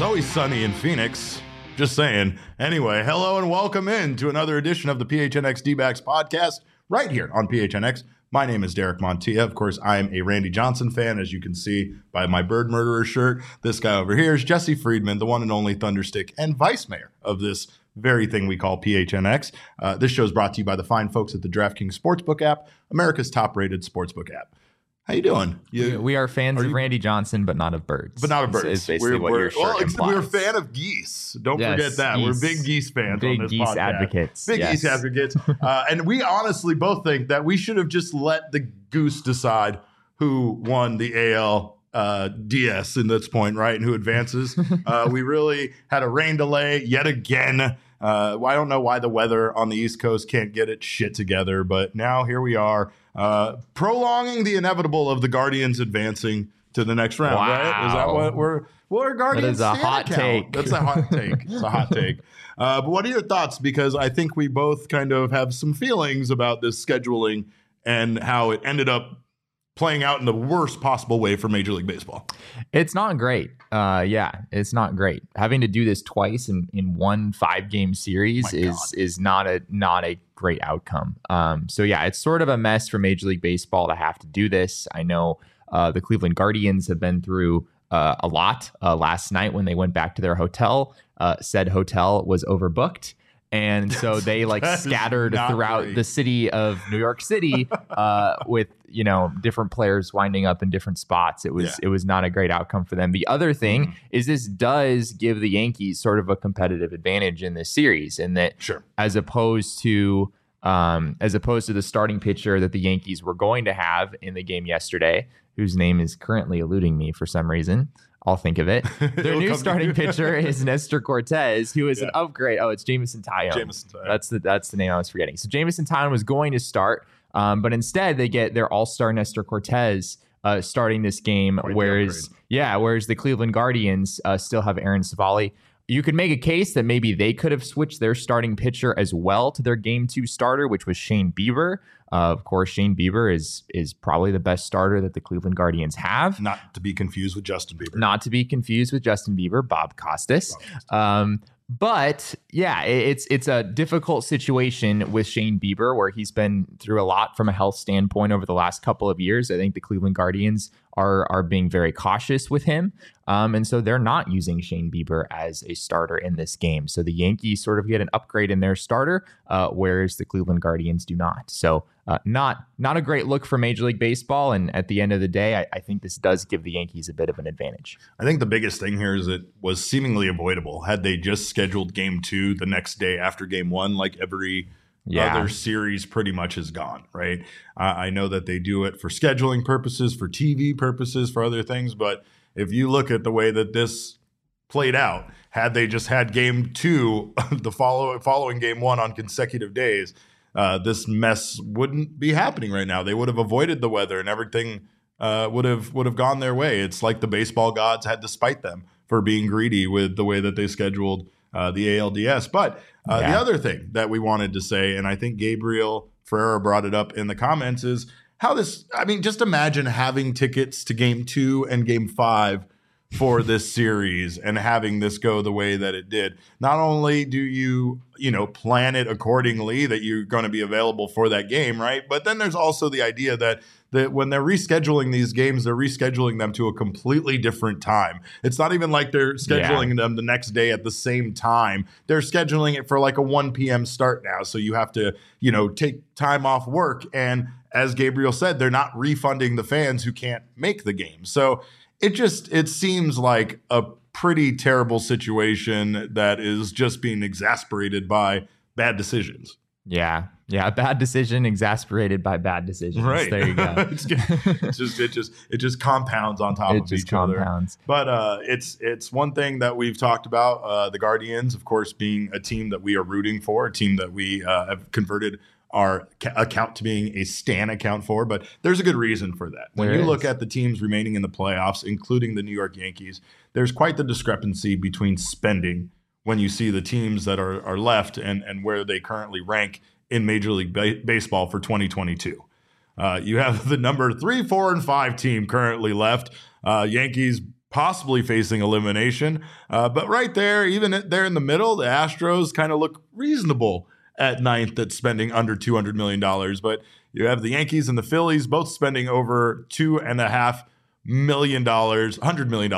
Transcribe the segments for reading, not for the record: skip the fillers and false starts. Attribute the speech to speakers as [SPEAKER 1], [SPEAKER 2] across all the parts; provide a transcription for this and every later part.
[SPEAKER 1] always sunny in Phoenix. Just saying. Anyway, hello and welcome in to another edition of the PHNX D-backs podcast right here on PHNX. My name is Derek Montilla. Of course, I am a Randy Johnson fan, as you can see by my Bird Murderer shirt. This guy over here is Jesse Friedman, the one and only Thunderstick and vice mayor of this very thing we call PHNX. This show is brought to you by the fine folks at the DraftKings Sportsbook app, America's top-rated sportsbook app. How you doing?
[SPEAKER 2] We are fans of Randy Johnson, but not of birds.
[SPEAKER 1] But not of birds.
[SPEAKER 2] Is basically what your shirt implies.
[SPEAKER 1] We're a fan of geese. Don't forget that. Geese. We're big geese fans on this podcast. Big geese advocates. Big geese advocates. And we honestly both think that we should have just let the goose decide who won the AL DS in this point, right? And who advances. We really had a rain delay yet again. I don't know why the weather on the East Coast can't get its shit together, but now here we are, prolonging the inevitable of the Guardians advancing to the next round, right? Is that what we're Guardians?
[SPEAKER 2] That is a hot take.
[SPEAKER 1] That's a hot take. It's a hot take. But what are your thoughts? Because I think we both kind of have some feelings about this scheduling and how it ended up playing out in the worst possible way for Major League Baseball.
[SPEAKER 2] It's not great. It's not great. Having to do this twice in one 5-game series is not a great outcome. It's sort of a mess for Major League Baseball to have to do this. I know the Cleveland Guardians have been through a lot. Last night when they went back to their hotel, said hotel was overbooked. And so they scattered throughout the city of New York City with, different players winding up in different spots. It was not a great outcome for them. The other thing is this does give the Yankees sort of a competitive advantage in this series in that as opposed to the starting pitcher that the Yankees were going to have in the game yesterday, whose name is currently eluding me for some reason. I'll think of it. Their new starting pitcher is Nestor Cortez, who is an upgrade. Oh, it's Jameson Taillon. That's the name I was forgetting. So Jameson Taillon was going to start, but instead they get their all-star Nestor Cortez starting this game, whereas the Cleveland Guardians still have Aaron Civale. You could make a case that maybe they could have switched their starting pitcher as well to their Game 2 starter, which was Shane Bieber. Of course, Shane Bieber is probably the best starter that the Cleveland Guardians have.
[SPEAKER 1] Not to be confused with Justin Bieber.
[SPEAKER 2] Bob Costas. It's a difficult situation with Shane Bieber where he's been through a lot from a health standpoint over the last couple of years. I think the Cleveland Guardians are being very cautious with him. And so they're not using Shane Bieber as a starter in this game. So the Yankees sort of get an upgrade in their starter, whereas the Cleveland Guardians do not. So not a great look for Major League Baseball. And at the end of the day, I think this does give the Yankees a bit of an advantage.
[SPEAKER 1] I think the biggest thing here is it was seemingly avoidable. Had they just scheduled Game 2 the next day after Game 1, like every other series pretty much is gone, right? I know that they do it for scheduling purposes, for TV purposes, for other things. But if you look at the way that this played out, had they just had Game 2, the following Game 1 on consecutive days, this mess wouldn't be happening right now. They would have avoided the weather and everything would have gone their way. It's like the baseball gods had to spite them for being greedy with the way that they scheduled the ALDS. But the other thing that we wanted to say, and I think Gabriel Ferreira brought it up in the comments, is how this, just imagine having tickets to Game 2 and Game 5 for this series and having this go the way that it did. Not only do you plan it accordingly that you're going to be available for that game, right? But then there's also the idea that when they're rescheduling these games, they're rescheduling them to a completely different time. It's not even like they're scheduling them the next day at the same time. They're scheduling it for like a 1 p.m. start now. So you have to, take time off work. And as Gabriel said, they're not refunding the fans who can't make the game. So it seems like a pretty terrible situation that is just being exasperated by bad decisions.
[SPEAKER 2] Yeah, bad decision exasperated by bad decisions.
[SPEAKER 1] Right.
[SPEAKER 2] There you go.
[SPEAKER 1] it just compounds on top of each other. But it's one thing that we've talked about. The Guardians, of course, being a team that we are rooting for, a team that we have converted our account to being a Stan account for, but there's a good reason for that. When you look at the teams remaining in the playoffs, including the New York Yankees, there's quite the discrepancy between spending when you see the teams that are left and where they currently rank in Major League Baseball for 2022. You have the number 3, 4, and 5 team currently left. Yankees possibly facing elimination. But right there, even there in the middle, the Astros kind of look reasonable at ninth at spending under $200 million. But you have the Yankees and the Phillies both spending over $2.5 million, $100 million,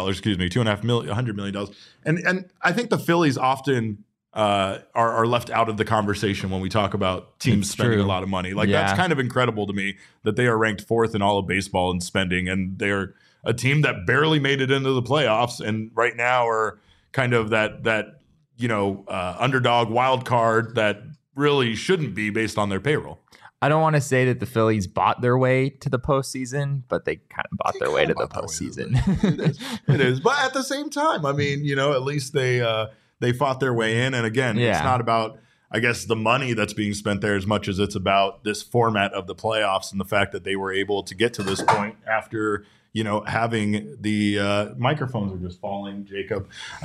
[SPEAKER 1] $100 million. And I think the Phillies often are left out of the conversation when we talk about teams spending a lot of money. Like that's kind of incredible to me that they are ranked fourth in all of baseball in spending, and they're a team that barely made it into the playoffs, and right now are kind of that underdog wild card that really shouldn't be based on their payroll.
[SPEAKER 2] I don't want to say that the Phillies bought their way to the postseason, but they kind of bought their way to the postseason.
[SPEAKER 1] It is. But at the same time, I mean, at least they fought their way in. And again, it's not about, I guess, the money that's being spent there as much as it's about this format of the playoffs and the fact that they were able to get to this point after, having the microphones are just falling, Jacob,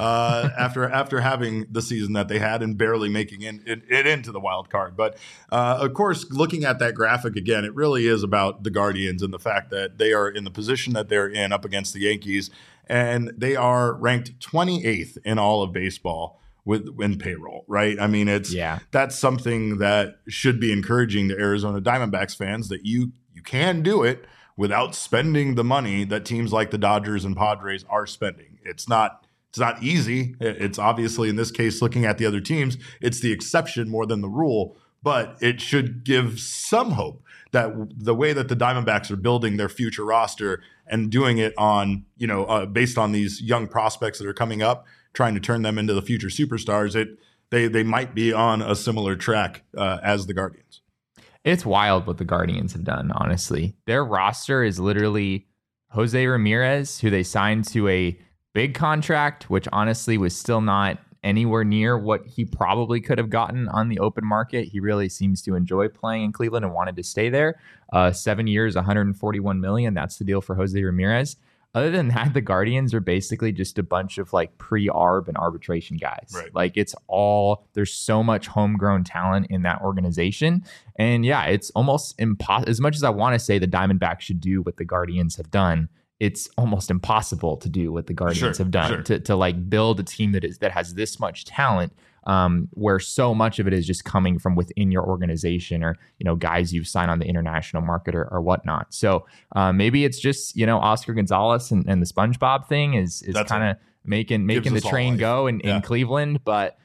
[SPEAKER 1] after having the season that they had and barely making it into the wild card. But of course, looking at that graphic again, it really is about the Guardians and the fact that they are in the position that they're in up against the Yankees. And they are ranked 28th in all of baseball in payroll, right? I mean, that's something that should be encouraging to Arizona Diamondbacks fans that you can do it without spending the money that teams like the Dodgers and Padres are spending. It's not easy. It's obviously, in this case, looking at the other teams, it's the exception more than the rule, but it should give some hope that the way that the Diamondbacks are building their future roster and doing it on, based on these young prospects that are coming up, trying to turn them into the future superstars, they might be on a similar track as the Guardians.
[SPEAKER 2] It's wild what the Guardians have done, honestly. Their roster is literally Jose Ramirez, who they signed to a big contract, which honestly was still not anywhere near what he probably could have gotten on the open market. He really seems to enjoy playing in Cleveland and wanted to stay there. 7 years, $141 million. That's the deal for Jose Ramirez. Other than that, the Guardians are basically just a bunch of like pre-arb and arbitration guys.
[SPEAKER 1] Right.
[SPEAKER 2] Like there's so much homegrown talent in that organization. And it's almost impossible. As much as I want to say the Diamondbacks should do what the Guardians have done, it's almost impossible to do what the Guardians have done to like build a team that has this much talent, where so much of it is just coming from within your organization or, guys you've signed on the international market or whatnot. So maybe it's just, Oscar Gonzalez and the SpongeBob thing is kind of making the train go in Cleveland. But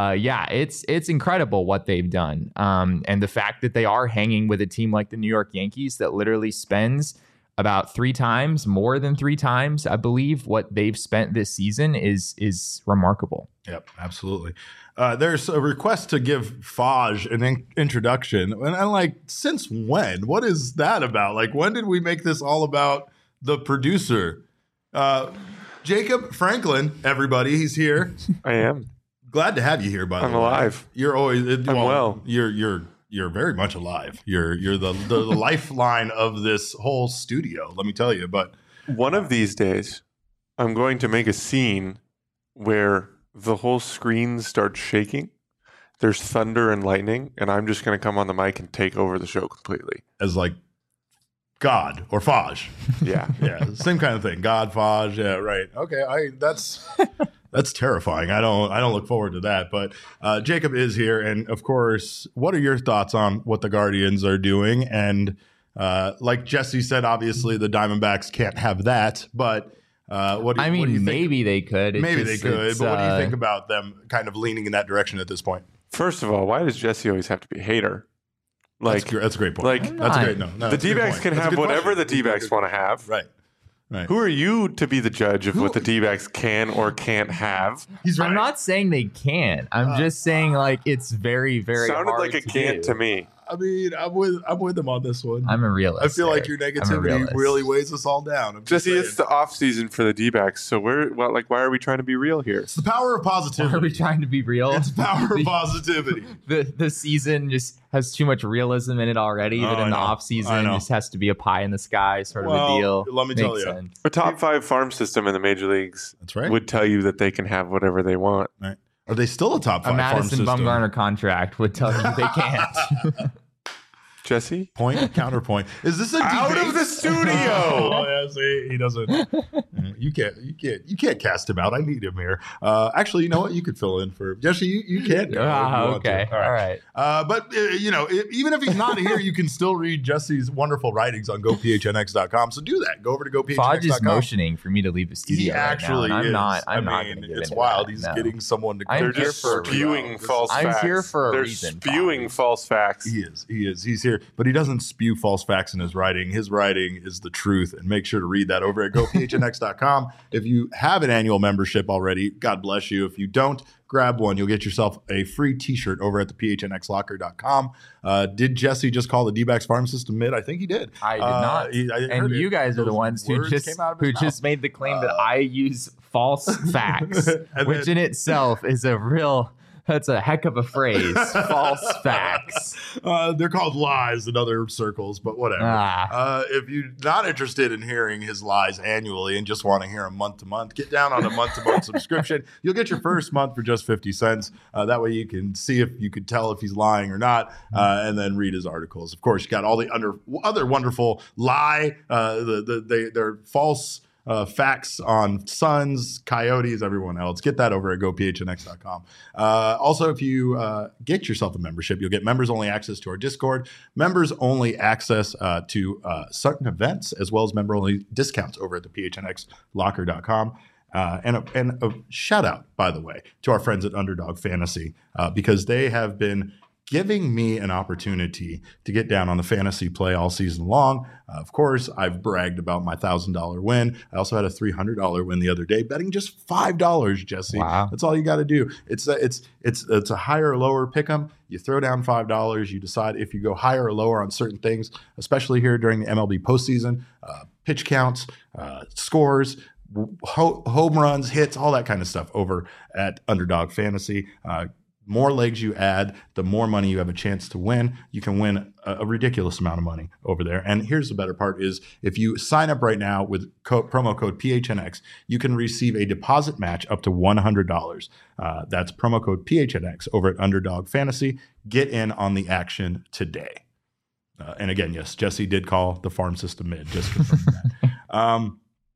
[SPEAKER 2] it's incredible what they've done. And the fact that they are hanging with a team like the New York Yankees that literally spends about more than three times, I believe, what they've spent this season is remarkable.
[SPEAKER 1] Yep, absolutely. There's a request to give Faj an introduction. And I'm like, since when? What is that about? Like, when did we make this all about the producer? Jacob Franklin, everybody, he's here.
[SPEAKER 3] I am.
[SPEAKER 1] Glad to have you here, by the way.
[SPEAKER 3] I'm alive.
[SPEAKER 1] You're always
[SPEAKER 3] well.
[SPEAKER 1] You're very much alive. You're the lifeline of this whole studio, let me tell you. But
[SPEAKER 3] one of these days, I'm going to make a scene where the whole screen starts shaking. There's thunder and lightning, and I'm just going to come on the mic and take over the show completely.
[SPEAKER 1] As like God or Faj.
[SPEAKER 3] Yeah.
[SPEAKER 1] Yeah, same kind of thing. God, Faj. Yeah, right. Okay, that's terrifying. I don't look forward to that. But Jacob is here, and of course, what are your thoughts on what the Guardians are doing? And like Jesse said, obviously the Diamondbacks can't have that. But what do you think?
[SPEAKER 2] Maybe they could.
[SPEAKER 1] Maybe they could. But what do you think about them kind of leaning in that direction at this point?
[SPEAKER 3] First of all, why does Jesse always have to be a hater? Like
[SPEAKER 1] that's a great point.
[SPEAKER 3] Like
[SPEAKER 1] that's a great no.
[SPEAKER 3] The D-backs can have whatever the D-backs want to have.
[SPEAKER 1] Right.
[SPEAKER 3] Who are you to be the judge of what the D-backs can or can't have?
[SPEAKER 1] He's right.
[SPEAKER 2] I'm not saying they can. I'm just saying like it's very, very
[SPEAKER 3] sounded
[SPEAKER 2] hard
[SPEAKER 3] like a can't to me.
[SPEAKER 1] I mean, I'm with them on this one.
[SPEAKER 2] I'm a realist.
[SPEAKER 1] I feel like your negativity really weighs us all down.
[SPEAKER 3] Jesse, it's the off season for the D-backs, so why are we trying to be real here?
[SPEAKER 1] It's the power of positivity.
[SPEAKER 2] Why are we trying to be real?
[SPEAKER 1] It's the power of positivity.
[SPEAKER 2] The season just has too much realism in it already. That in the off season just has to be a pie in the sky sort of a deal.
[SPEAKER 1] Let me tell you,
[SPEAKER 3] a top 5 farm system in the major leagues.
[SPEAKER 1] That's right.
[SPEAKER 3] Would tell you that they can have whatever they want.
[SPEAKER 1] Right. Are they still a top 5
[SPEAKER 2] farm system? A Madison Bumgarner contract would tell you they can't.
[SPEAKER 3] Jesse?
[SPEAKER 1] Counterpoint. Is this a
[SPEAKER 3] out
[SPEAKER 1] debate?
[SPEAKER 3] of the studio?
[SPEAKER 1] Oh, yeah, see, he doesn't. You can't cast him out. I need him here. Actually, you know what? You could fill in for Jesse. You can.
[SPEAKER 2] Okay. All right.
[SPEAKER 1] But even if he's not here, you can still read Jesse's wonderful writings on GoPHNX.com. So do that. Go over to GoPHNX.com.
[SPEAKER 2] Fodge is motioning for me to leave the studio.
[SPEAKER 1] He actually
[SPEAKER 2] right now,
[SPEAKER 1] is.
[SPEAKER 2] I'm not.
[SPEAKER 1] It's wild. He's getting someone to.
[SPEAKER 3] They're just spewing false facts.
[SPEAKER 2] I'm here for a reason.
[SPEAKER 3] They're spewing false facts.
[SPEAKER 1] He is. He's here, but he doesn't spew false facts in his writing. His writing is the truth, and make sure to read that over at GoPHNX.com. If you have an annual membership already, God bless you. If you don't, grab one. You'll get yourself a free t-shirt over at the PHNXlocker.com. Did Jesse just call the D-backs farm system mid? I think he did.
[SPEAKER 2] I did not. And you guys are the ones who just made the claim that I use false facts, which in itself is that's a heck of a phrase. False facts.
[SPEAKER 1] They're called lies in other circles, but whatever. If you're not interested in hearing his lies annually and just want to hear him month to month, get down on a month-to-month subscription. You'll get your first month for just 50 cents. That way you can see if you could tell if he's lying or not, and then read his articles. Of course, you got all the other wonderful they're false facts on Suns, Coyotes, everyone else. Get that over at GoPHNX.com. Also, if you get yourself a membership, you'll get members-only access to our Discord, members-only access to certain events, as well as member-only discounts over at the PHNXlocker.com. And a shout-out, by the way, to our friends at Underdog Fantasy, because they have been giving me an opportunity to get down on the fantasy play all season long. Of course, I've bragged about my $1,000 win. I also had a $300 win the other day, betting just $5, Jesse.
[SPEAKER 2] Wow.
[SPEAKER 1] That's all you got to do. It's a higher or lower pick 'em. You throw down $5. You decide if you go higher or lower on certain things, especially here during the MLB postseason, pitch counts, scores, home runs, hits, all that kind of stuff over at Underdog Fantasy. More legs you add, the more money you have a chance to win. You can win a ridiculous amount of money over there. And here's the better part is if you sign up right now with promo code PHNX, you can receive a deposit match up to $100. That's promo code PHNX over at Underdog Fantasy. Get in on the action today. And again, yes, Jesse did call the farm system mid. Just confirming that.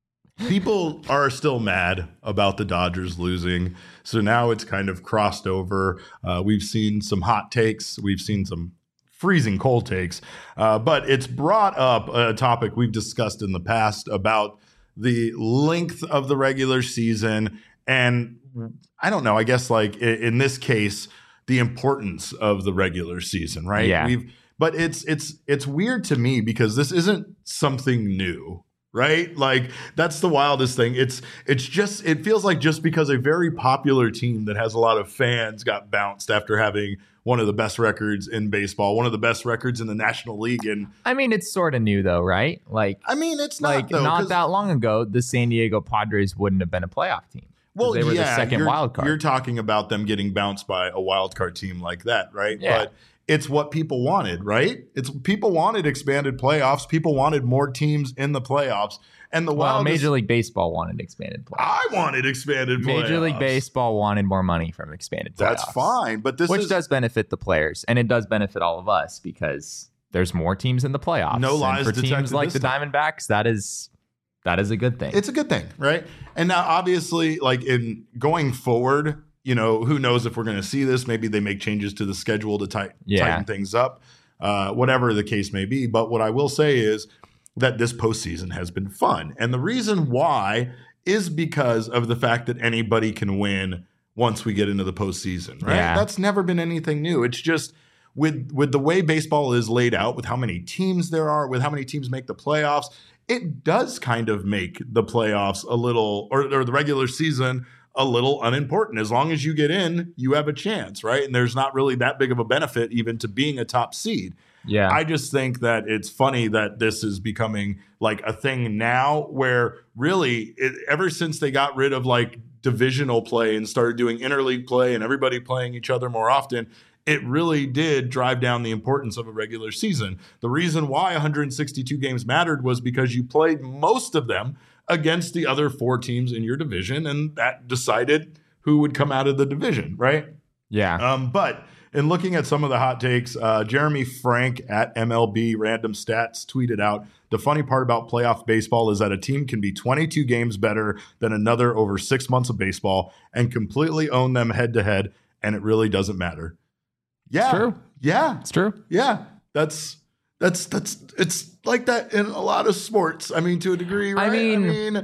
[SPEAKER 1] People are still mad about the Dodgers losing. So now it's kind of crossed over. We've seen some hot takes. We've seen some freezing cold takes. But it's brought up a topic we've discussed in the past about the length of the regular season. And I don't know, I guess like in this case, the importance of the regular season, right?
[SPEAKER 2] Yeah.
[SPEAKER 1] But it's weird to me because this isn't something new. Right? Like that's the wildest thing. It feels like just because a very popular team that has a lot of fans got bounced after having one of the best records in baseball, one of the best records in the National League. And
[SPEAKER 2] I mean, it's sort of new though, right? Like,
[SPEAKER 1] it's not though,
[SPEAKER 2] not that long ago, the San Diego Padres wouldn't have been a playoff team.
[SPEAKER 1] Well,
[SPEAKER 2] they were the second wild card.
[SPEAKER 1] You're talking about them getting bounced by a wild card team like that, right?
[SPEAKER 2] Yeah.
[SPEAKER 1] But it's what people wanted, right? People wanted expanded playoffs. People wanted more teams in the playoffs. And
[SPEAKER 2] Major League Baseball wanted expanded playoffs.
[SPEAKER 1] I wanted expanded playoffs.
[SPEAKER 2] Major League Baseball wanted more money from expanded playoffs.
[SPEAKER 1] That's fine, but which
[SPEAKER 2] does benefit the players, and it does benefit all of us because there's more teams in the playoffs.
[SPEAKER 1] No lies
[SPEAKER 2] and for teams like the Diamondbacks, that is a good thing.
[SPEAKER 1] It's a good thing, right? And now, obviously, like in going forward, who knows if we're going to see this? Maybe they make changes to the schedule to tighten things up, whatever the case may be. But what I will say is that this postseason has been fun. And the reason why is because of the fact that anybody can win once we get into the postseason, right?
[SPEAKER 2] Yeah.
[SPEAKER 1] That's never been anything new. It's just with the way baseball is laid out, with how many teams there are, with how many teams make the playoffs, it does kind of make the playoffs a little, or the regular season a little unimportant. As long as you get in, you have a chance, right? And there's not really that big of a benefit even to being a top seed.
[SPEAKER 2] Yeah.
[SPEAKER 1] I just think that it's funny that this is becoming like a thing now where really ever since they got rid of like divisional play and started doing interleague play and everybody playing each other more often, it really did drive down the importance of a regular season. The reason why 162 games mattered was because you played most of them against the other four teams in your division, and that decided who would come out of the division, right?
[SPEAKER 2] Yeah.
[SPEAKER 1] But in looking at some of the hot takes, Jeremy Frank at MLB Random Stats tweeted out, the funny part about playoff baseball is that a team can be 22 games better than another over 6 months of baseball and completely own them head to head, and it really doesn't matter. Yeah.
[SPEAKER 2] It's true.
[SPEAKER 1] Yeah.
[SPEAKER 2] It's true.
[SPEAKER 1] Yeah. That's it's like that in a lot of sports. I mean, to a degree, right?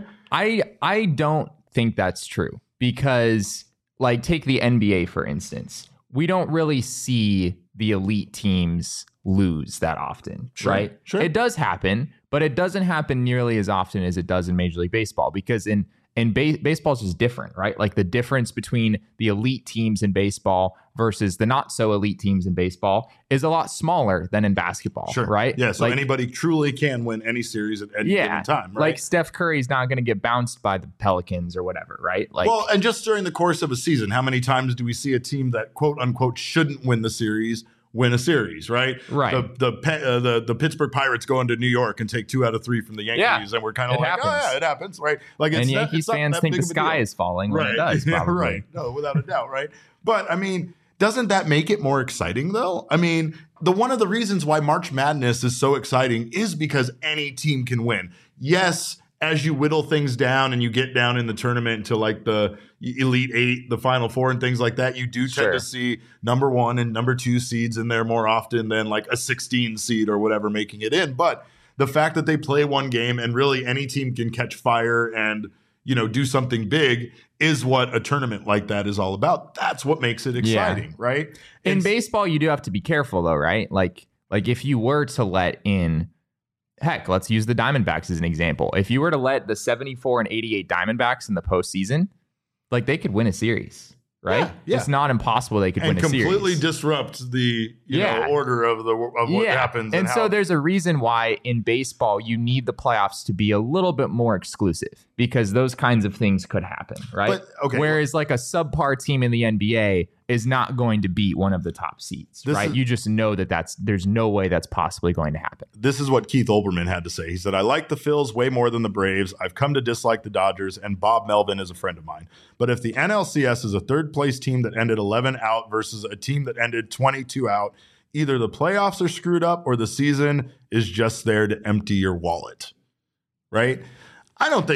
[SPEAKER 2] I don't think that's true because, like, take the NBA, for instance. We don't really see the elite teams lose that often, right?
[SPEAKER 1] Sure.
[SPEAKER 2] It does happen, but it doesn't happen nearly as often as it does in Major League Baseball because baseball is just different, right? Like the difference between the elite teams in baseball versus the not so elite teams in baseball is a lot smaller than in basketball, right?
[SPEAKER 1] Yeah, so anybody truly can win any series at any given time, right?
[SPEAKER 2] Like Steph Curry's not going to get bounced by the Pelicans or whatever, right? Like,
[SPEAKER 1] well, and just during the course of a season, how many times do we see a team that quote unquote shouldn't win the series win a series, right?
[SPEAKER 2] Right.
[SPEAKER 1] The Pittsburgh Pirates go into New York and take 2 out of 3 from the Yankees, and we're kind of like,
[SPEAKER 2] happens.
[SPEAKER 1] oh yeah, it happens, right? Like,
[SPEAKER 2] and Yankees fans think the sky is falling when it does, probably.
[SPEAKER 1] Right? No, without a doubt, right? But I mean, doesn't that make it more exciting though? I mean, one of the reasons why March Madness is so exciting is because any team can win. Yes, as you whittle things down and you get down in the tournament into like the Elite Eight, the Final Four and things like that, you do tend to see number 1 and number 2 seeds in there more often than like a 16 seed or whatever making it in. But the fact that they play one game and really any team can catch fire and, you know, do something big is what a tournament like that is all about. That's what makes it exciting, right?
[SPEAKER 2] In baseball, you do have to be careful though, right? Like if you were to let in, heck, let's use the Diamondbacks as an example. If you were to let the 74 and 88 Diamondbacks in the postseason, like they could win a series, right?
[SPEAKER 1] Yeah.
[SPEAKER 2] It's not impossible they could win a series.
[SPEAKER 1] And completely disrupt the order of what happens.
[SPEAKER 2] And so there's a reason why in baseball you need the playoffs to be a little bit more exclusive because those kinds of things could happen, right? Whereas like a subpar team in the NBA is not going to beat one of the top seeds, right? You just know that there's no way that's possibly going to happen.
[SPEAKER 1] This is what Keith Olbermann had to say. He said, I like the Phils way more than the Braves. I've come to dislike the Dodgers, and Bob Melvin is a friend of mine. But if the NLCS is a third-place team that ended 11 out versus a team that ended 22 out, either the playoffs are screwed up or the season is just there to empty your wallet, right? I don't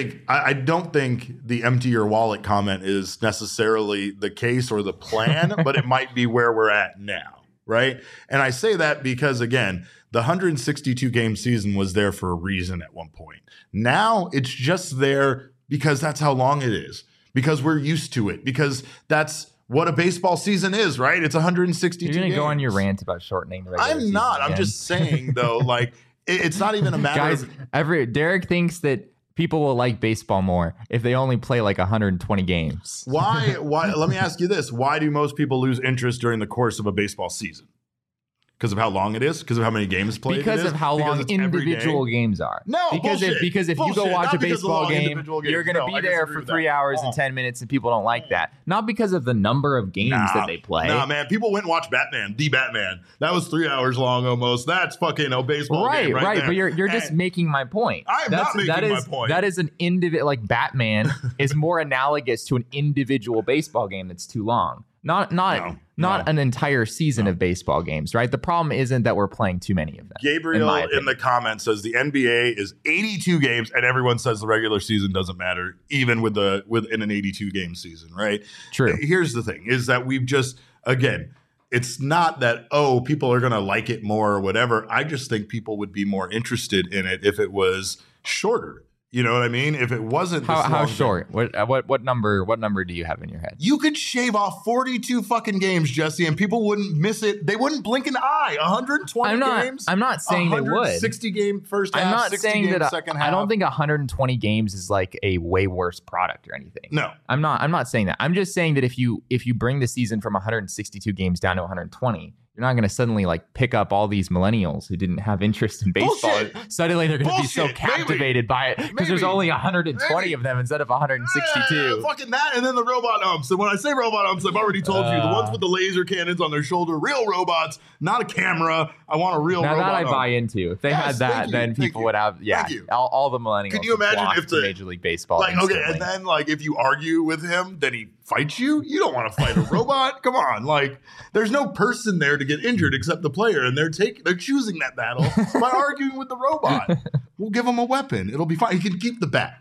[SPEAKER 1] think the empty your wallet comment is necessarily the case or the plan, but it might be where we're at now, right? And I say that because, again, the 162 game season was there for a reason at one point. Now it's just there because that's how long it is, because we're used to it, because that's what a baseball season is, right? It's 162 games.
[SPEAKER 2] You're going to go on your rant about shortening the regular season.
[SPEAKER 1] I'm not. I'm just saying, though, like, it's not even a matter
[SPEAKER 2] of... Derek thinks that people will like baseball more if they only play like 120 games.
[SPEAKER 1] Why? Let me ask you this. Why do most people lose interest during the course of a baseball season? Because of how long it is? Because of how many games played?
[SPEAKER 2] Because of how long individual games are.
[SPEAKER 1] No,
[SPEAKER 2] because if you go watch a baseball game, you're going to be there for 3 hours and 10 minutes, and people don't like that. Not because of the number of games that they play.
[SPEAKER 1] Nah, man. People went and watched Batman, The Batman. That was 3 hours long almost. That's fucking a baseball game right there.
[SPEAKER 2] But you're just making my point.
[SPEAKER 1] I'm not making my point.
[SPEAKER 2] That is an individual, like Batman is more analogous to an individual baseball game that's too long. Not an entire season of baseball games, right? The problem isn't that we're playing too many of them.
[SPEAKER 1] Gabriel in the comments says the NBA is 82 games, and everyone says the regular season doesn't matter, even within an 82 game season, right?
[SPEAKER 2] True.
[SPEAKER 1] Here's the thing: is that we've just it's not that people are going to like it more or whatever. I just think people would be more interested in it if it was shorter. You know what I mean? If it wasn't
[SPEAKER 2] how short? What number do you have in your head?
[SPEAKER 1] You could shave off 42 fucking games, Jesse, and people wouldn't miss it. They wouldn't blink an eye. 120 games.
[SPEAKER 2] I'm not saying they would.
[SPEAKER 1] 60 game first half.
[SPEAKER 2] I'm not
[SPEAKER 1] 60
[SPEAKER 2] saying
[SPEAKER 1] game
[SPEAKER 2] that
[SPEAKER 1] second half.
[SPEAKER 2] I don't think 120 games is like a way worse product or anything.
[SPEAKER 1] No,
[SPEAKER 2] I'm not saying that. I'm just saying that if you bring the season from 162 games down to 120, you're not going to suddenly like pick up all these millennials who didn't have interest in baseball.
[SPEAKER 1] Bullshit.
[SPEAKER 2] Suddenly they're going to be so captivated by it because there's only 120 of them instead of 162.
[SPEAKER 1] Fucking that, and then the robot umps. And when I say robot umps, I've already told you the ones with the laser cannons on their shoulder, real robots, not a camera. I want a real robot.
[SPEAKER 2] Now that I
[SPEAKER 1] ump.
[SPEAKER 2] buy into. If they had that, then people would have all the millennials.
[SPEAKER 1] Could you imagine if the
[SPEAKER 2] Major League Baseball?
[SPEAKER 1] Like instantly. Okay, and then like if you argue with him, then he fights you. You don't want to fight a robot. Come on, like there's no person there to get injured except the player, and they're choosing that battle by arguing with the robot. We'll give him a weapon. It'll be fine. He can keep the bat.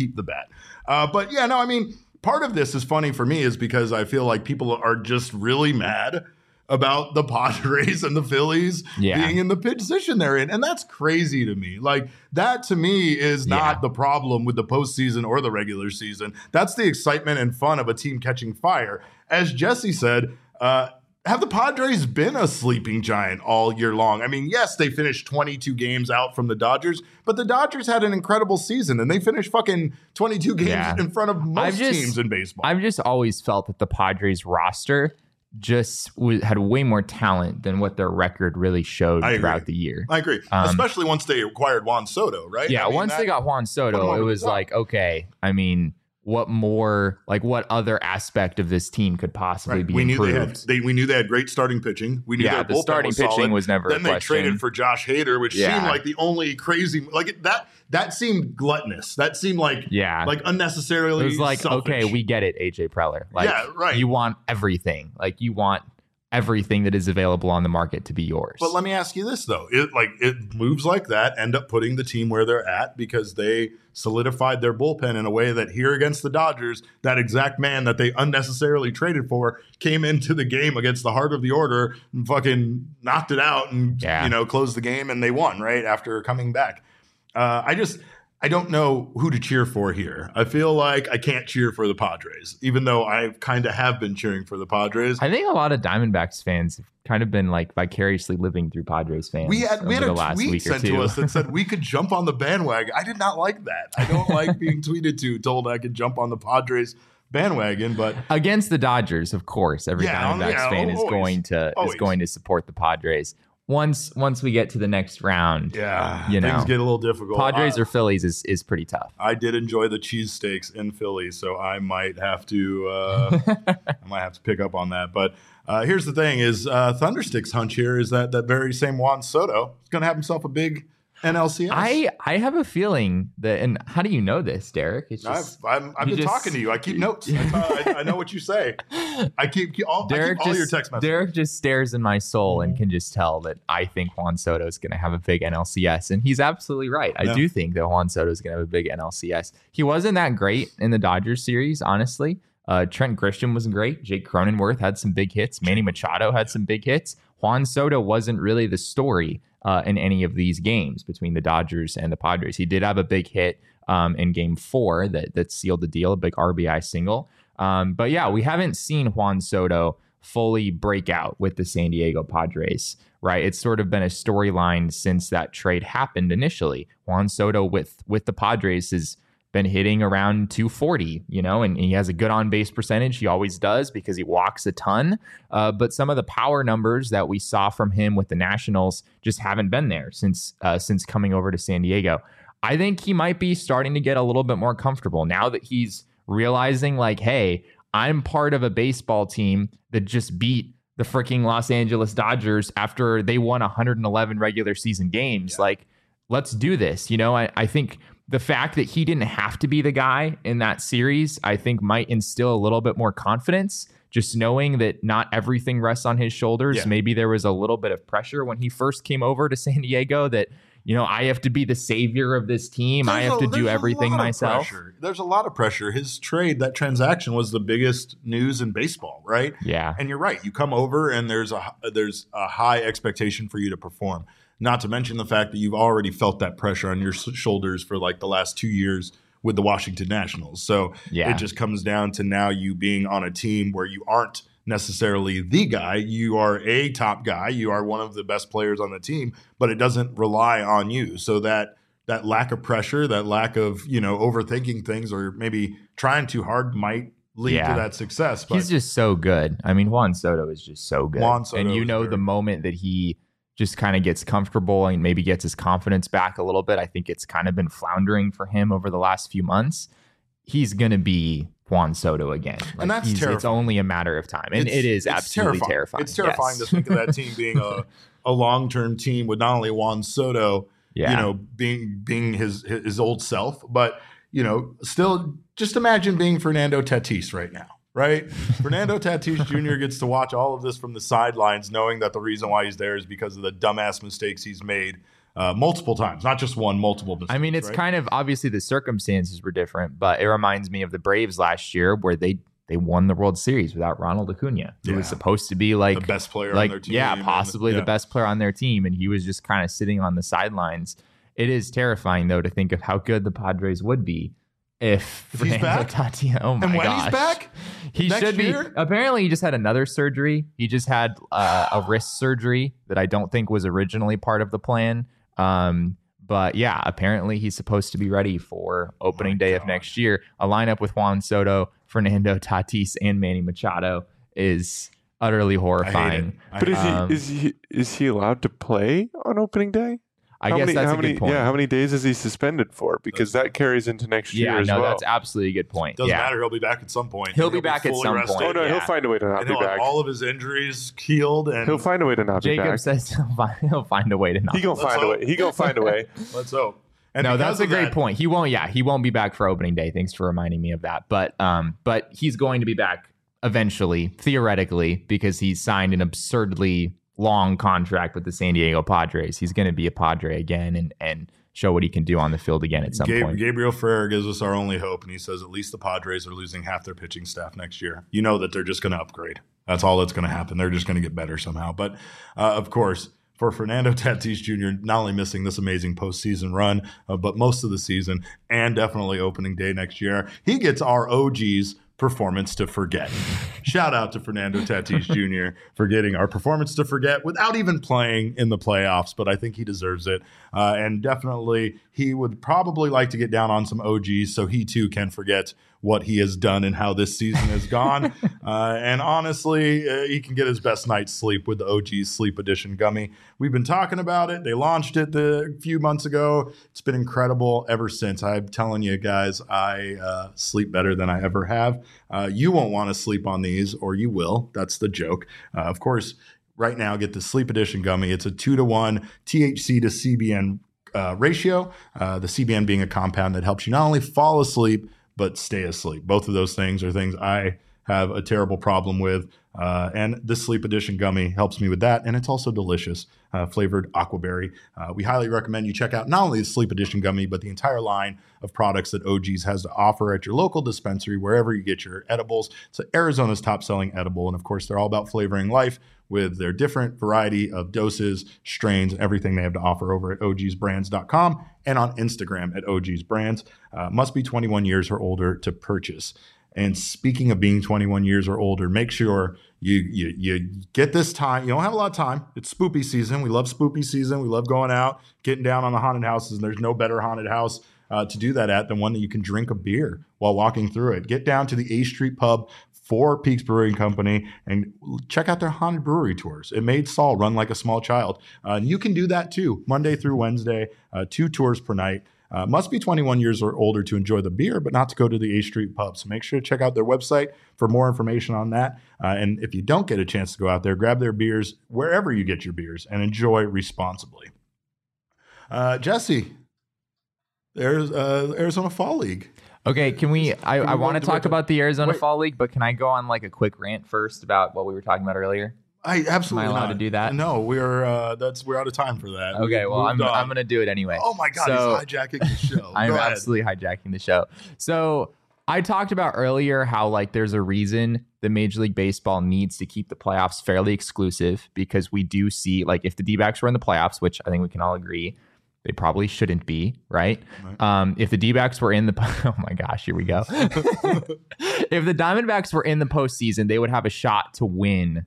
[SPEAKER 1] But yeah, no, I mean, part of this is funny for me is because I feel like people are just really mad about the Padres and the Phillies being in the position they're in. And that's crazy to me. Like, that to me is not the problem with the postseason or the regular season. That's the excitement and fun of a team catching fire. As Jesse said, have the Padres been a sleeping giant all year long? I mean, yes, they finished 22 games out from the Dodgers, but the Dodgers had an incredible season, and they finished fucking 22 games in front of most teams in baseball.
[SPEAKER 2] I've just always felt that the Padres roster just had way more talent than what their record really showed throughout the year.
[SPEAKER 1] I agree. Especially once they acquired Juan Soto, right?
[SPEAKER 2] Yeah, once they got Juan Soto, it was like, okay, I mean, what more, like what other aspect of this team could possibly be improved?
[SPEAKER 1] We knew they had great starting pitching. We knew their bullpen
[SPEAKER 2] starting
[SPEAKER 1] was
[SPEAKER 2] pitching
[SPEAKER 1] solid.
[SPEAKER 2] was never
[SPEAKER 1] Then
[SPEAKER 2] a
[SPEAKER 1] they
[SPEAKER 2] question.
[SPEAKER 1] traded for Josh Hader, which seemed like the only crazy, like that seemed gluttonous. That seemed like unnecessarily
[SPEAKER 2] It was like,
[SPEAKER 1] selfish.
[SPEAKER 2] okay, we get it, AJ Preller. Like, you want everything. Like, you want everything that is available on the market to be yours.
[SPEAKER 1] But let me ask you this, though. It moves like that end up putting the team where they're at because they solidified their bullpen in a way that here against the Dodgers, that exact man that they unnecessarily traded for came into the game against the heart of the order and fucking knocked it out and closed the game, and they won right after coming back. I don't know who to cheer for here. I feel like I can't cheer for the Padres, even though I kind of have been cheering for the Padres.
[SPEAKER 2] I think a lot of Diamondbacks fans have kind of been like vicariously living through Padres fans.
[SPEAKER 1] We had a tweet sent to us that said we could jump on the bandwagon. I did not like that. I don't like being tweeted told I could jump on the Padres bandwagon, but
[SPEAKER 2] against the Dodgers, of course, every Diamondbacks fan is going to support the Padres. Once we get to the next round,
[SPEAKER 1] things get a little difficult.
[SPEAKER 2] Padres or Phillies is pretty tough.
[SPEAKER 1] I did enjoy the cheesesteaks in Philly, so I might have to pick up on that. But here's the thing: is Thunderstick's hunch here is that very same Juan Soto is going to have himself a big NLCS.
[SPEAKER 2] I have a feeling that, and how do you know this, Derek? It's just,
[SPEAKER 1] I've been talking to you. I keep notes. I know what you say. I keep all your text messages.
[SPEAKER 2] Derek just stares in my soul and can just tell that I think Juan Soto is going to have a big NLCS, and he's absolutely right. I do think that Juan Soto is going to have a big NLCS. He wasn't that great in the Dodgers series, honestly. Trent Grisham wasn't great. Jake Cronenworth had some big hits. Manny Machado had some big hits. Juan Soto wasn't really the story in any of these games between the Dodgers and the Padres. He did have a big hit in Game 4 that sealed the deal, a big RBI single. But yeah, we haven't seen Juan Soto fully break out with the San Diego Padres, right? It's sort of been a storyline since that trade happened initially. Juan Soto with the Padres has been hitting around 240, and he has a good on-base percentage. He always does because he walks a ton. But some of the power numbers that we saw from him with the Nationals just haven't been there since coming over to San Diego. I think he might be starting to get a little bit more comfortable now that he's realizing, like, hey, I'm part of a baseball team that just beat the freaking Los Angeles Dodgers after they won 111 regular season games. Yeah. Like, let's do this. I think the fact that he didn't have to be the guy in that series, I think might instill a little bit more confidence, just knowing that not everything rests on his shoulders. Yeah. Maybe there was a little bit of pressure when he first came over to San Diego that, I have to be the savior of this team. I have to do everything myself.
[SPEAKER 1] There's a lot of pressure. His trade, that transaction was the biggest news in baseball, right?
[SPEAKER 2] Yeah.
[SPEAKER 1] And you're right. You come over and there's a high expectation for you to perform. Not to mention the fact that you've already felt that pressure on your shoulders for like the last 2 years with the Washington Nationals. So it just comes down to now you being on a team where you aren't necessarily the guy. You are a top guy. You are one of the best players on the team, but it doesn't rely on you. So that lack of pressure, that lack of, overthinking things or maybe trying too hard might lead to that success. But
[SPEAKER 2] he's just so good. I mean, Juan Soto is just so good.
[SPEAKER 1] And
[SPEAKER 2] the moment that he just kind of gets comfortable and maybe gets his confidence back a little bit, I think it's kind of been floundering for him over the last few months. He's going to be Juan Soto again.
[SPEAKER 1] And that's terrifying.
[SPEAKER 2] It's only a matter of time. And it is absolutely terrifying.
[SPEAKER 1] It's terrifying to think of that team being a long-term team with not only Juan Soto, being his old self, but, still just imagine being Fernando Tatis right now. Right? Fernando Tatis Jr. gets to watch all of this from the sidelines, knowing that the reason why he's there is because of the dumbass mistakes he's made multiple times, not just one, multiple mistakes.
[SPEAKER 2] I mean, it's kind of obviously the circumstances were different, but it reminds me of the Braves last year where they won the World Series without Ronald Acuna, who was supposed to be like
[SPEAKER 1] the best player on their team.
[SPEAKER 2] Yeah, possibly the best player on their team, and he was just kind of sitting on the sidelines. It is terrifying, though, to think of how good the Padres would be if
[SPEAKER 1] he's back.
[SPEAKER 2] Oh my
[SPEAKER 1] and when
[SPEAKER 2] gosh.
[SPEAKER 1] he's back,
[SPEAKER 2] he should be. Apparently, he just had another surgery. He just had a wrist surgery that I don't think was originally part of the plan. But yeah, apparently he's supposed to be ready for opening day of next year. A lineup with Juan Soto, Fernando Tatis, and Manny Machado is utterly horrifying.
[SPEAKER 3] But is he allowed to play on opening day?
[SPEAKER 2] I guess that's a good point.
[SPEAKER 3] Yeah, how many days is he suspended for? Because that carries into next year as well.
[SPEAKER 2] Yeah, that's absolutely a good point.
[SPEAKER 1] Doesn't matter. He'll be back at some point.
[SPEAKER 2] He'll be back at some point.
[SPEAKER 3] Oh, no, he'll find a way to not be back.
[SPEAKER 1] All of his injuries healed. And
[SPEAKER 3] he'll find a way to not be back.
[SPEAKER 2] Jacob says he'll find a way to not be back.
[SPEAKER 3] He gonna find a way.
[SPEAKER 1] Let's hope. And
[SPEAKER 2] no, that's a great point. He won't be back for opening day. Thanks for reminding me of that. But he's going to be back eventually, theoretically, because he's signed an absurdly long contract with the San Diego Padres. He's going to be a Padre again and show what he can do on the field again at some point.
[SPEAKER 1] Gabriel Ferrer gives us our only hope, and he says at least the Padres are losing half their pitching staff next year. You know that they're just going to upgrade. That's all that's going to happen. They're just going to get better somehow. But, of course, for Fernando Tatis Jr., not only missing this amazing postseason run, but most of the season and definitely opening day next year, he gets our OG's performance to forget. Shout out to Fernando Tatis Jr. for getting our performance to forget without even playing in the playoffs, but I think he deserves it. And definitely he would probably like to get down on some OGs so he too can forget what he has done and how this season has gone. And honestly, he can get his best night's sleep with the OG's Sleep Edition gummy. We've been talking about it. They launched it a few months ago. It's been incredible ever since. I'm telling you guys, I sleep better than I ever have. You won't want to sleep on these, or you will. That's the joke. Of course, right now, get the Sleep Edition gummy. It's a 2-to-1 THC to CBN ratio. The CBN being a compound that helps you not only fall asleep, but stay asleep. Both of those things are things I have a terrible problem with. And this Sleep Edition gummy helps me with that. And it's also delicious, flavored aquaberry. We highly recommend you check out not only the Sleep Edition gummy, but the entire line of products that OG's has to offer at your local dispensary, wherever you get your edibles. It's Arizona's top selling edible. And of course, they're all about flavoring life with their different variety of doses, strains, everything they have to offer over at ogsbrands.com and on Instagram at ogsbrands. Must be 21 years or older to purchase. And speaking of being 21 years or older, make sure you get this time. You don't have a lot of time. It's spoopy season. We love spoopy season. We love going out, getting down on the haunted houses. And there's no better haunted house to do that at than one that you can drink a beer while walking through it. Get down to the A Street Pub for Peaks Brewing Company and check out their haunted brewery tours. It made Saul run like a small child. You can do that too, Monday through Wednesday, 2 tours per night. Must be 21 years or older to enjoy the beer, but not to go to the A Street Pub. So make sure to check out their website for more information on that. And if you don't get a chance to go out there, grab their beers wherever you get your beers and enjoy responsibly. Jesse, there's Arizona Fall League.
[SPEAKER 2] Okay, can we? I want to talk about the Arizona Fall League, but can I go on like a quick rant first about what we were talking about earlier?
[SPEAKER 1] I absolutely
[SPEAKER 2] Am I allowed to do that?
[SPEAKER 1] No, we're out of time for that.
[SPEAKER 2] Okay, well I'm going to do it anyway.
[SPEAKER 1] Oh my God, he's hijacking the show.
[SPEAKER 2] I'm absolutely hijacking the show. So I talked about earlier how like there's a reason the Major League Baseball needs to keep the playoffs fairly exclusive, because we do see like if the D-backs were in the playoffs, which I think we can all agree they probably shouldn't be, right? If the D-backs were in the oh my gosh, here we go. If the Diamondbacks were in the postseason, they would have a shot to win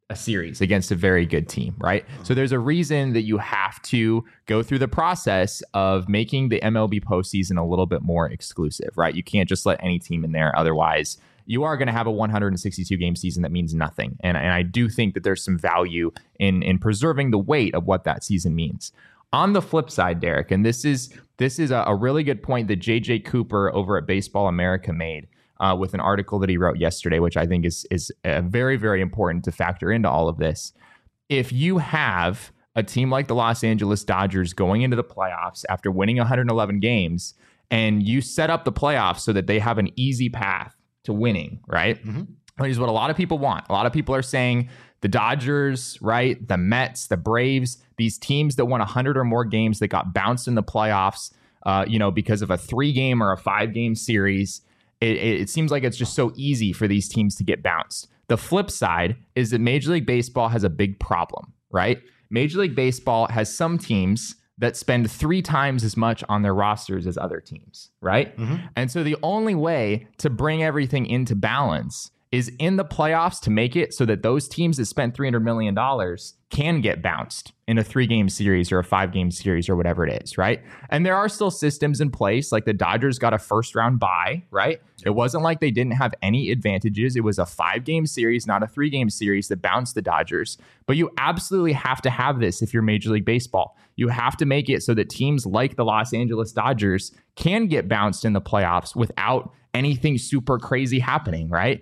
[SPEAKER 2] a series against a very good team, right? So there's a reason that you have to go through the process of making the MLB postseason a little bit more exclusive, right? You can't just let any team in there. Otherwise, you are going to have a 162 game season that means nothing. And I do think that there's some value in preserving the weight of what that season means. On the flip side, Derek, and this is a really good point that JJ Cooper over at Baseball America made with an article that he wrote yesterday, which I think is very, very important to factor into all of this. If you have a team like the Los Angeles Dodgers going into the playoffs after winning 111 games, and you set up the playoffs so that they have an easy path to winning, right? Mm-hmm. Which is what a lot of people want. A lot of people are saying the Dodgers, right? The Mets, the Braves, these teams that won 100 or more games that got bounced in the playoffs, because of a 3-game or a 5-game series. It seems like it's just so easy for these teams to get bounced. The flip side is that Major League Baseball has a big problem, right? Major League Baseball has some teams that spend 3 times as much on their rosters as other teams, right? Mm-hmm. And so the only way to bring everything into balance is in the playoffs to make it so that those teams that spent $300 million can get bounced in a 3-game series or a 5-game series or whatever it is, right? And there are still systems in place, like the Dodgers got a first-round bye, right? It wasn't like they didn't have any advantages. It was a 5-game series, not a 3-game series that bounced the Dodgers. But you absolutely have to have this if you're Major League Baseball. You have to make it so that teams like the Los Angeles Dodgers can get bounced in the playoffs without anything super crazy happening, right?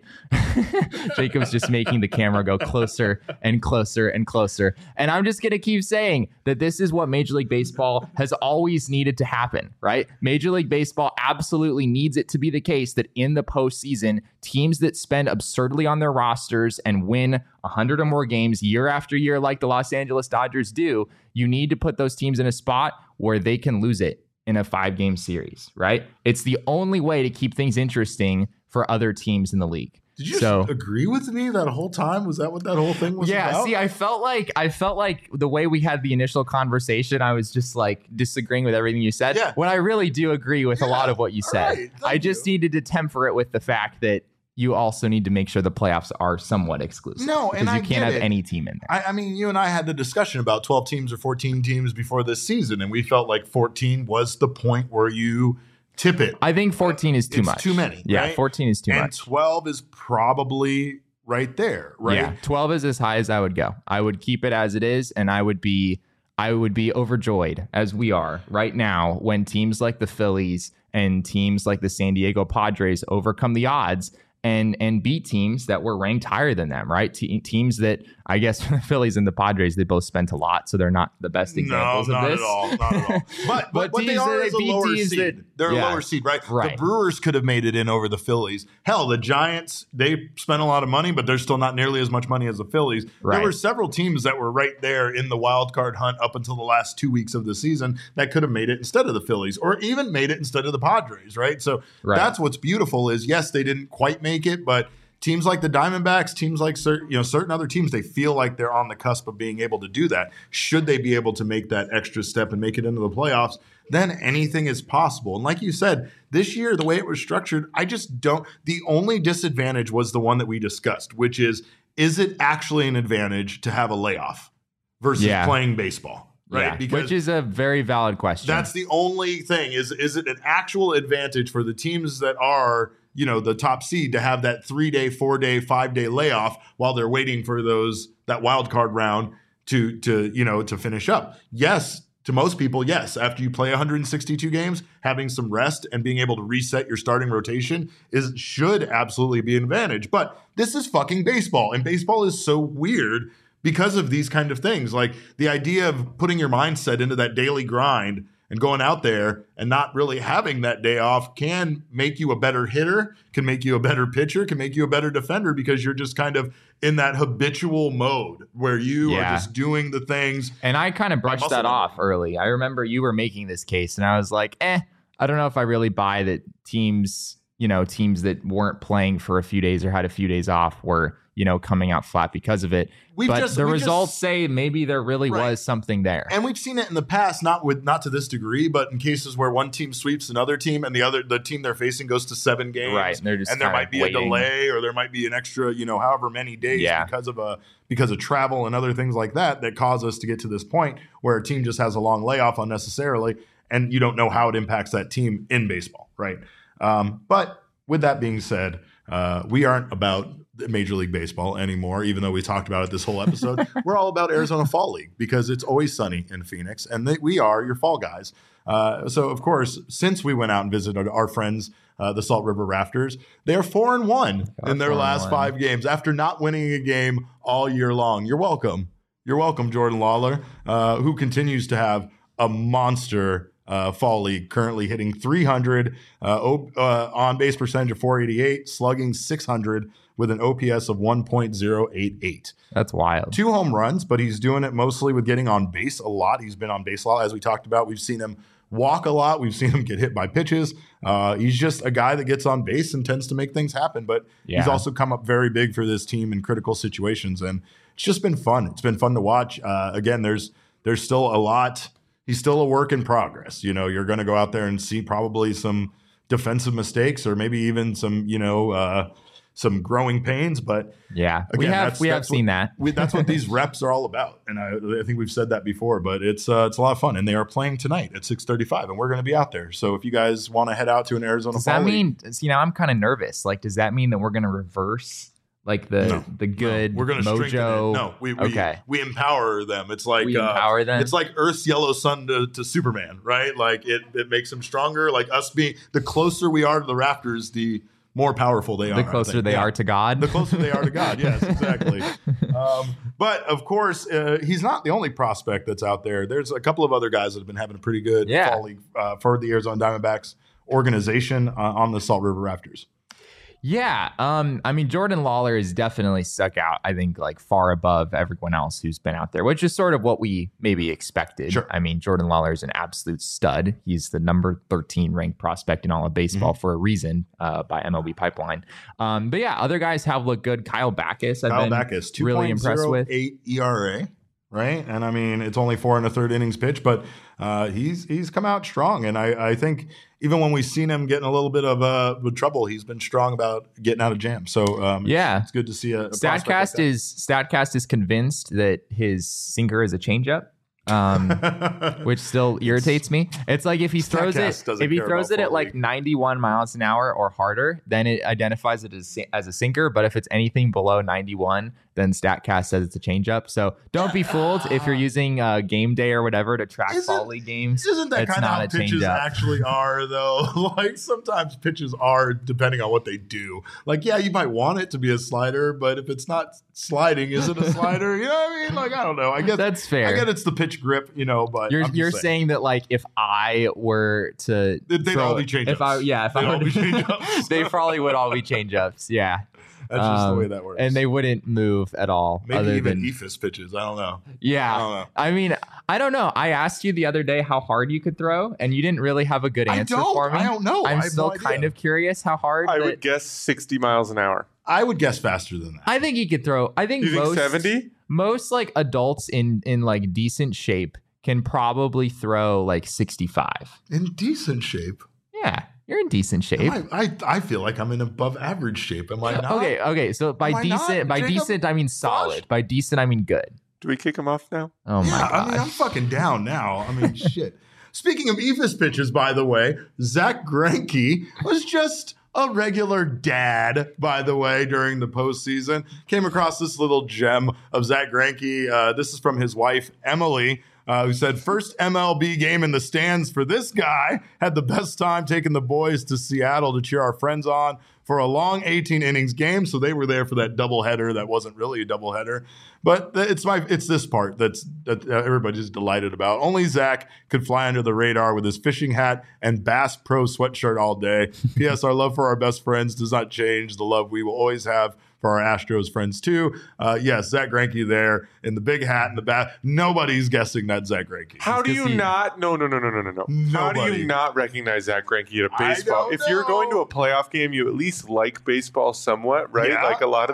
[SPEAKER 2] Jacob's just making the camera go closer and closer and closer. And I'm just going to keep saying that this is what Major League Baseball has always needed to happen, right? Major League Baseball absolutely needs it to be the case that in the postseason, teams that spend absurdly on their rosters and win 100 or more games year after year like the Los Angeles Dodgers do, you need to put those teams in a spot where they can lose it in a 5-game series, right? It's the only way to keep things interesting for other teams in the league.
[SPEAKER 1] Did you agree with me that whole time? Was that what that whole thing was about?
[SPEAKER 2] Yeah, see, I felt like the way we had the initial conversation, I was just like disagreeing with everything you said. Yeah. When I really do agree with a lot of what you said. Right, I just needed to temper it with the fact that you also need to make sure the playoffs are somewhat exclusive.
[SPEAKER 1] No, and
[SPEAKER 2] because you can't have any team in there.
[SPEAKER 1] I mean, you and I had the discussion about 12 teams or 14 teams before this season, and we felt like 14 was the point where you tip it.
[SPEAKER 2] I think 14 is too much.
[SPEAKER 1] Too many.
[SPEAKER 2] Yeah,
[SPEAKER 1] right?
[SPEAKER 2] 14 is too much.
[SPEAKER 1] And 12 is probably right there, right?
[SPEAKER 2] Yeah, 12 is as high as I would go. I would keep it as it is, and I would be overjoyed, as we are right now, when teams like the Phillies and teams like the San Diego Padres overcome the odds and beat teams that were ranked higher than them, right? Teams that, I guess, the Phillies and the Padres, they both spent a lot, so they're not the best examples of this.
[SPEAKER 1] Not at all. But they are as a lower seed. They're a lower seed, right? The Brewers could have made it in over the Phillies. Hell, the Giants, they spent a lot of money, but they're still not nearly as much money as the Phillies. Right. There were several teams that were right there in the wild card hunt up until the last 2 weeks of the season that could have made it instead of the Phillies, or even made it instead of the Padres, right? So that's what's beautiful is, yes, they didn't quite make it, but teams like the Diamondbacks, teams like certain other teams, they feel like they're on the cusp of being able to do that. Should they be able to make that extra step and make it into the playoffs, then anything is possible. And like you said, this year, the way it was structured, I just don't. The only disadvantage was the one that we discussed, which is it actually an advantage to have a layoff versus playing baseball? Right?
[SPEAKER 2] Yeah, because which is a very valid question.
[SPEAKER 1] That's the only thing. Is it an actual advantage for the teams that are, the top seed to have that 3-day, 4-day, 5-day layoff while they're waiting for that wild card round to finish up? Yes, to most people, yes. After you play 162 games, having some rest and being able to reset your starting rotation should absolutely be an advantage. But this is fucking baseball, and baseball is so weird because of these kind of things. Like the idea of putting your mindset into that daily grind and going out there and not really having that day off can make you a better hitter, can make you a better pitcher, can make you a better defender, because you're just kind of in that habitual mode where you are just doing the things.
[SPEAKER 2] And I kind of brushed that off early. I remember you were making this case and I was like, I don't know if I really buy that teams that weren't playing for a few days or had a few days off were coming out flat because of it. The results say maybe there really was something there.
[SPEAKER 1] And we've seen it in the past, not to this degree, but in cases where one team sweeps another team and the team they're facing goes to 7 games.
[SPEAKER 2] Right.
[SPEAKER 1] And there might be a delay or there might be an extra, however many days because of travel and other things like that cause us to get to this point where a team just has a long layoff unnecessarily and you don't know how it impacts that team in baseball, right? But with that being said, we aren't about Major League Baseball anymore, even though we talked about it this whole episode. We're all about Arizona Fall League because it's always sunny in Phoenix, and we are your fall guys. So, of course, since we went out and visited our friends, the Salt River Rafters, they're 4-1 in their last 5 games after not winning a game all year long. You're welcome. You're welcome, Jordan Lawler, who continues to have a monster Fall League, currently hitting 300, on base percentage of 488, slugging 600 with an OPS of 1.088.
[SPEAKER 2] That's wild.
[SPEAKER 1] 2 home runs, but he's doing it mostly with getting on base a lot. He's been on base a lot, as we talked about. We've seen him walk a lot. We've seen him get hit by pitches. He's just a guy that gets on base and tends to make things happen. But he's also come up very big for this team in critical situations, and it's just been fun. It's been fun to watch. Again, there's still a lot. He's still a work in progress. You're going to go out there and see probably some defensive mistakes or maybe even some growing pains, but
[SPEAKER 2] again, we have seen that.
[SPEAKER 1] That's what these reps are all about, and I think we've said that before. But it's a lot of fun, and they are playing tonight at 6:35, and we're going to be out there. So if you guys want to head out to an Arizona,
[SPEAKER 2] does that mean? I'm kind of nervous. Like, does that mean that we're going to reverse like the good
[SPEAKER 1] we're going to
[SPEAKER 2] mojo?
[SPEAKER 1] No, we empower them. It's like
[SPEAKER 2] we empower them.
[SPEAKER 1] It's like Earth's yellow sun to Superman, right? Like it makes them stronger. Like us being the closer we are to the Raptors, the more powerful they are.
[SPEAKER 2] The closer they are to God.
[SPEAKER 1] The closer they are to God. Yes, exactly. But of course, he's not the only prospect that's out there. There's a couple of other guys that have been having a pretty good fall league for the Arizona Diamondbacks organization on the Salt River Rafters.
[SPEAKER 2] Yeah. Jordan Lawler has definitely stuck out, I think, like far above everyone else who's been out there, which is sort of what we maybe expected.
[SPEAKER 1] Sure.
[SPEAKER 2] Jordan Lawler is an absolute stud. He's the number 13 ranked prospect in all of baseball for a reason by MLB Pipeline. But yeah, other guys have looked good. Kyle Backus, I've been really impressed with.
[SPEAKER 1] 2.08 ERA. Right. And it's only 4 1/3 innings pitched, but he's come out strong. And I think even when we've seen him getting a little bit of trouble, he's been strong about getting out of jams. So it's good to see a
[SPEAKER 2] StatCast is convinced that his sinker is a changeup. Which still irritates me. It's like if he throws it at like 91 miles an hour or harder, then it identifies it as a sinker. But if it's anything below 91, then StatCast says it's a changeup. So don't be fooled if you're using Game Day or whatever to track fall league games.
[SPEAKER 1] Isn't that kind of how pitches actually are, though? Like sometimes pitches are depending on what they do. Like, yeah, you might want it to be a slider, but if it's not sliding, is it a slider? You know what I mean? Like, I don't know. I guess
[SPEAKER 2] that's fair.
[SPEAKER 1] I get it's the pitch grip, but
[SPEAKER 2] you're saying that like if I were to
[SPEAKER 1] they'd all be changeups.
[SPEAKER 2] They probably would all be changeups. Yeah.
[SPEAKER 1] That's just the way that works.
[SPEAKER 2] And they wouldn't move at all.
[SPEAKER 1] Maybe even eephus pitches. I don't know.
[SPEAKER 2] Yeah. I don't know. I asked you the other day how hard you could throw, and you didn't really have a good answer for me.
[SPEAKER 1] I don't know.
[SPEAKER 2] I'm still kind of curious how hard.
[SPEAKER 3] I would guess 60 miles an hour.
[SPEAKER 1] I would guess faster than that.
[SPEAKER 2] I think he could throw. I think
[SPEAKER 3] you think 70?
[SPEAKER 2] Most like adults in like decent shape can probably throw like 65.
[SPEAKER 1] In decent shape?
[SPEAKER 2] Yeah. You're in decent shape.
[SPEAKER 1] I feel like I'm in above average shape. Am I not?
[SPEAKER 2] Okay. So by decent, I mean solid. Gosh. By decent, I mean good.
[SPEAKER 3] Do we kick him off now?
[SPEAKER 2] Oh my god!
[SPEAKER 1] I'm fucking down now. Shit. Speaking of eephus pitches, by the way, Zach Greinke was just a regular dad, by the way, during the postseason. Came across this little gem of Zach Greinke. This is from his wife, Emily, who said, first MLB game in the stands for this guy. Had the best time taking the boys to Seattle to cheer our friends on for a long 18 innings game. So they were there for that doubleheader that wasn't really a doubleheader. But it's this part that everybody's delighted about. Only Zach could fly under the radar with his fishing hat and Bass Pro sweatshirt all day. P.S. Our love for our best friends does not change. The love we will always have for our Astros friends too. Yes, Zach Greinke there in the big hat and the bat. Nobody's guessing that Zach Greinke.
[SPEAKER 3] How do you not? No. How do you not recognize Zach Greinke at a baseball? If you're going to a playoff game, you at least like baseball somewhat, right?
[SPEAKER 1] Yeah.
[SPEAKER 3] Like a lot of those.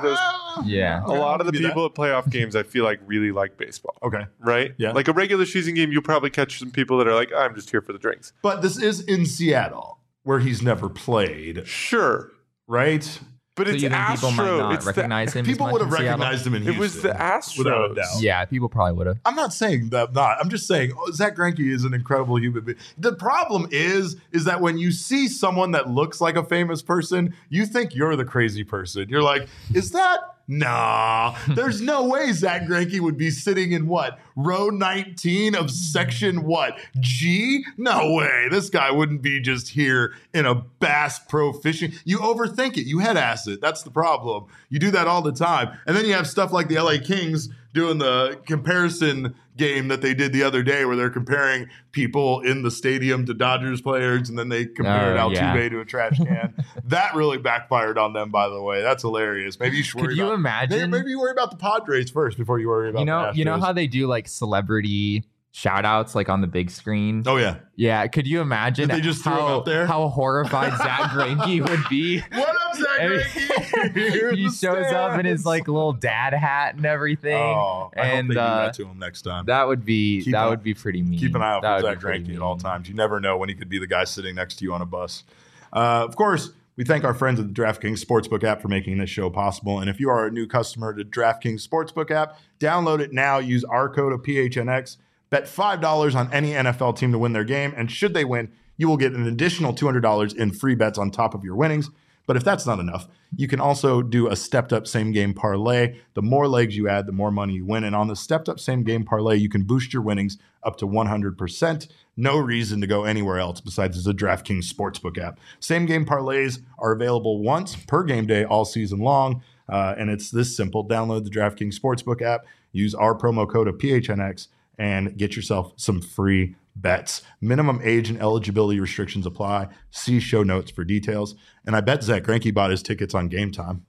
[SPEAKER 2] Yeah.
[SPEAKER 3] A lot of the people at playoff games, I feel like, really like baseball.
[SPEAKER 1] Okay.
[SPEAKER 3] Right?
[SPEAKER 1] Yeah.
[SPEAKER 3] Like a regular season game, you'll probably catch some people that are like, I'm just here for the drinks.
[SPEAKER 1] But this is in Seattle, where he's never played.
[SPEAKER 3] Sure.
[SPEAKER 1] Right?
[SPEAKER 3] But
[SPEAKER 2] So
[SPEAKER 3] it's
[SPEAKER 2] you think people might
[SPEAKER 3] Astro.
[SPEAKER 2] not
[SPEAKER 3] It's
[SPEAKER 2] recognize him?
[SPEAKER 1] People
[SPEAKER 2] as
[SPEAKER 1] would
[SPEAKER 2] much
[SPEAKER 1] have
[SPEAKER 2] in Seattle?
[SPEAKER 1] recognized him in Houston.
[SPEAKER 3] It was the Astros.
[SPEAKER 1] Without a doubt.
[SPEAKER 2] Yeah, people probably would have.
[SPEAKER 1] I'm not saying that not. I'm just saying Zach Greinke is an incredible human being. The problem is that when you see someone that looks like a famous person, you think you're the crazy person. You're like, is that? Nah, there's no way Zach Greinke would be sitting in what? Row 19 of section what? G? No way. This guy wouldn't be just here in a Bass Pro Fishing. You overthink it. You head ass it. That's the problem. You do that all the time. And then you have stuff like the LA Kings doing the comparison game that they did the other day where they're comparing people in the stadium to Dodgers players, and then they compared Altuve to a trash can. That really backfired on them, by the way. That's hilarious. Maybe you should worry about
[SPEAKER 2] imagine?
[SPEAKER 1] Maybe you worry about the Padres first before you worry about the Astros.
[SPEAKER 2] You know how they do like celebrity shout outs like on the big screen?
[SPEAKER 1] Oh yeah.
[SPEAKER 2] Yeah. Could you imagine
[SPEAKER 1] they just threw him out there?
[SPEAKER 2] How horrified Zach Greinke would be?
[SPEAKER 1] What up, Zach Greinke?
[SPEAKER 2] He shows up in his like little dad hat and everything.
[SPEAKER 1] Oh, I hope they do that to him next time.
[SPEAKER 2] That would be pretty mean.
[SPEAKER 1] Keep an eye out for Zach Greinke at all times. You never know when he could be the guy sitting next to you on a bus. Of course, we thank our friends at the DraftKings Sportsbook app for making this show possible. And if you are a new customer to DraftKings Sportsbook app, download it now. Use our code of PHNX. Bet $5 on any NFL team to win their game. And should they win, you will get an additional $200 in free bets on top of your winnings. But if that's not enough, you can also do a stepped-up same-game parlay. The more legs you add, the more money you win. And on the stepped-up same-game parlay, you can boost your winnings up to 100%. No reason to go anywhere else besides the DraftKings Sportsbook app. Same-game parlays are available once per game day all season long. And it's this simple. Download the DraftKings Sportsbook app. Use our promo code of PHNX and get yourself some free bets. Minimum age and eligibility restrictions apply. See show notes for details. And I bet Zach Greinke bought his tickets on Game Time.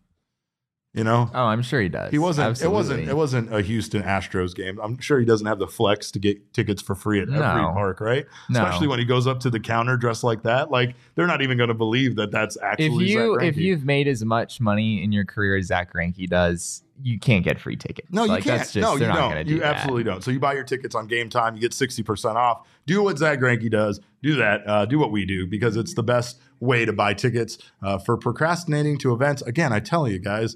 [SPEAKER 1] You know?
[SPEAKER 2] Oh, I'm sure he does.
[SPEAKER 1] He wasn't.
[SPEAKER 2] Absolutely.
[SPEAKER 1] It wasn't a Houston Astros game. I'm sure he doesn't have the flex to get tickets for free at every park, right?
[SPEAKER 2] No.
[SPEAKER 1] Especially when he goes up to the counter dressed like that. Like they're not even going to believe that that's actually Zach Greinke.
[SPEAKER 2] If you've made as much money in your career as Zach Greinke does, you can't get free tickets.
[SPEAKER 1] No, you
[SPEAKER 2] like,
[SPEAKER 1] can't.
[SPEAKER 2] That's just,
[SPEAKER 1] you
[SPEAKER 2] don't.
[SPEAKER 1] You absolutely don't. So you buy your tickets on Game Time. You get 60% off. Do what Zach Greinke does. Do that. Do what we do because it's the best way to buy tickets for procrastinating to events. Again, I tell you guys,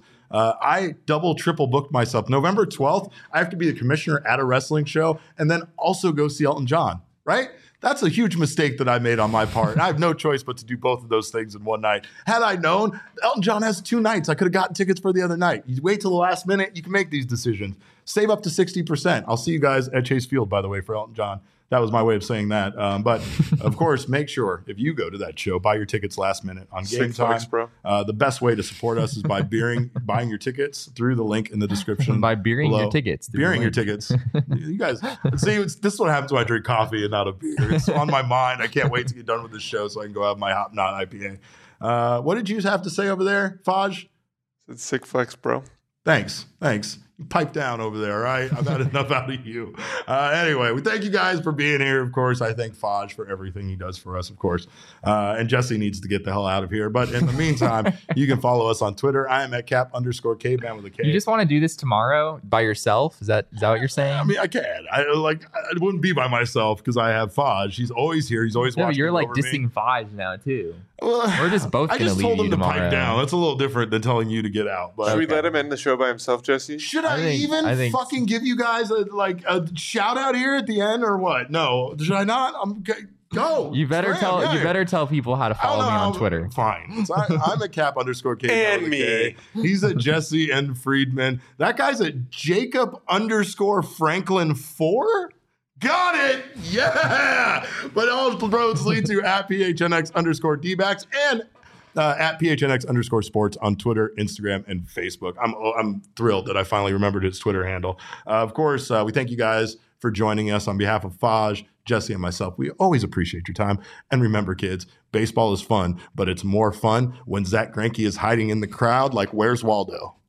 [SPEAKER 1] I double, triple booked myself. November 12th, I have to be the commissioner at a wrestling show and then also go see Elton John, right? That's a huge mistake that I made on my part. I have no choice but to do both of those things in one night. Had I known, Elton John has 2 nights. I could have gotten tickets for the other night. You wait till the last minute, you can make these decisions. Save up to 60%. I'll see you guys at Chase Field, by the way, for Elton John. That was my way of saying that. But of course, make sure if you go to that show, buy your tickets last minute on Game Time.
[SPEAKER 3] Bro.
[SPEAKER 1] The best way to support us is by buying your tickets through the link in the description.
[SPEAKER 2] By beering your tickets.
[SPEAKER 1] Beering your tickets. You guys, see, this is what happens when I drink coffee and not a beer. It's on my mind. I can't wait to get done with this show so I can go have my Hop Knot IPA. What did you have to say over there, Faj?
[SPEAKER 3] It's sick flex, bro.
[SPEAKER 1] Thanks. You pipe down over there, all right? I've had enough out of you. Anyway, we thank you guys for being here. Of course, I thank Faj for everything he does for us, of course. And Jesse needs to get the hell out of here. But in the meantime, you can follow us on Twitter. I am at cap_caveman with a K.
[SPEAKER 2] You just want to do this tomorrow by yourself? Is that what you're saying?
[SPEAKER 1] I mean, I can. I wouldn't be by myself because I have Faj. He's always here. He's always watching.
[SPEAKER 2] You're like
[SPEAKER 1] over
[SPEAKER 2] dissing Faj now too.
[SPEAKER 1] Well,
[SPEAKER 2] we're just both going to leave you tomorrow.
[SPEAKER 1] I just told him to pipe down. That's a little different than telling you to get out. But
[SPEAKER 3] should we let him end the show by himself, Jesse?
[SPEAKER 1] Should I think fucking give you guys a shout out here at the end or what? No, should I not? Go.
[SPEAKER 2] You better tell people how to follow me on Twitter.
[SPEAKER 1] Fine. So I'm at cap_K.
[SPEAKER 3] And me.
[SPEAKER 1] He's at Jesse and Friedman. That guy's at Jacob_Franklin4. Got it. Yeah. But all roads lead to at PHNX_D-backs and at PHNX_sports on Twitter, Instagram, and Facebook. I'm thrilled that I finally remembered his Twitter handle. Of course, we thank you guys for joining us on behalf of Faj, Jesse, and myself. We always appreciate your time. And remember, kids, baseball is fun, but it's more fun when Zach Greinke is hiding in the crowd like Where's Waldo?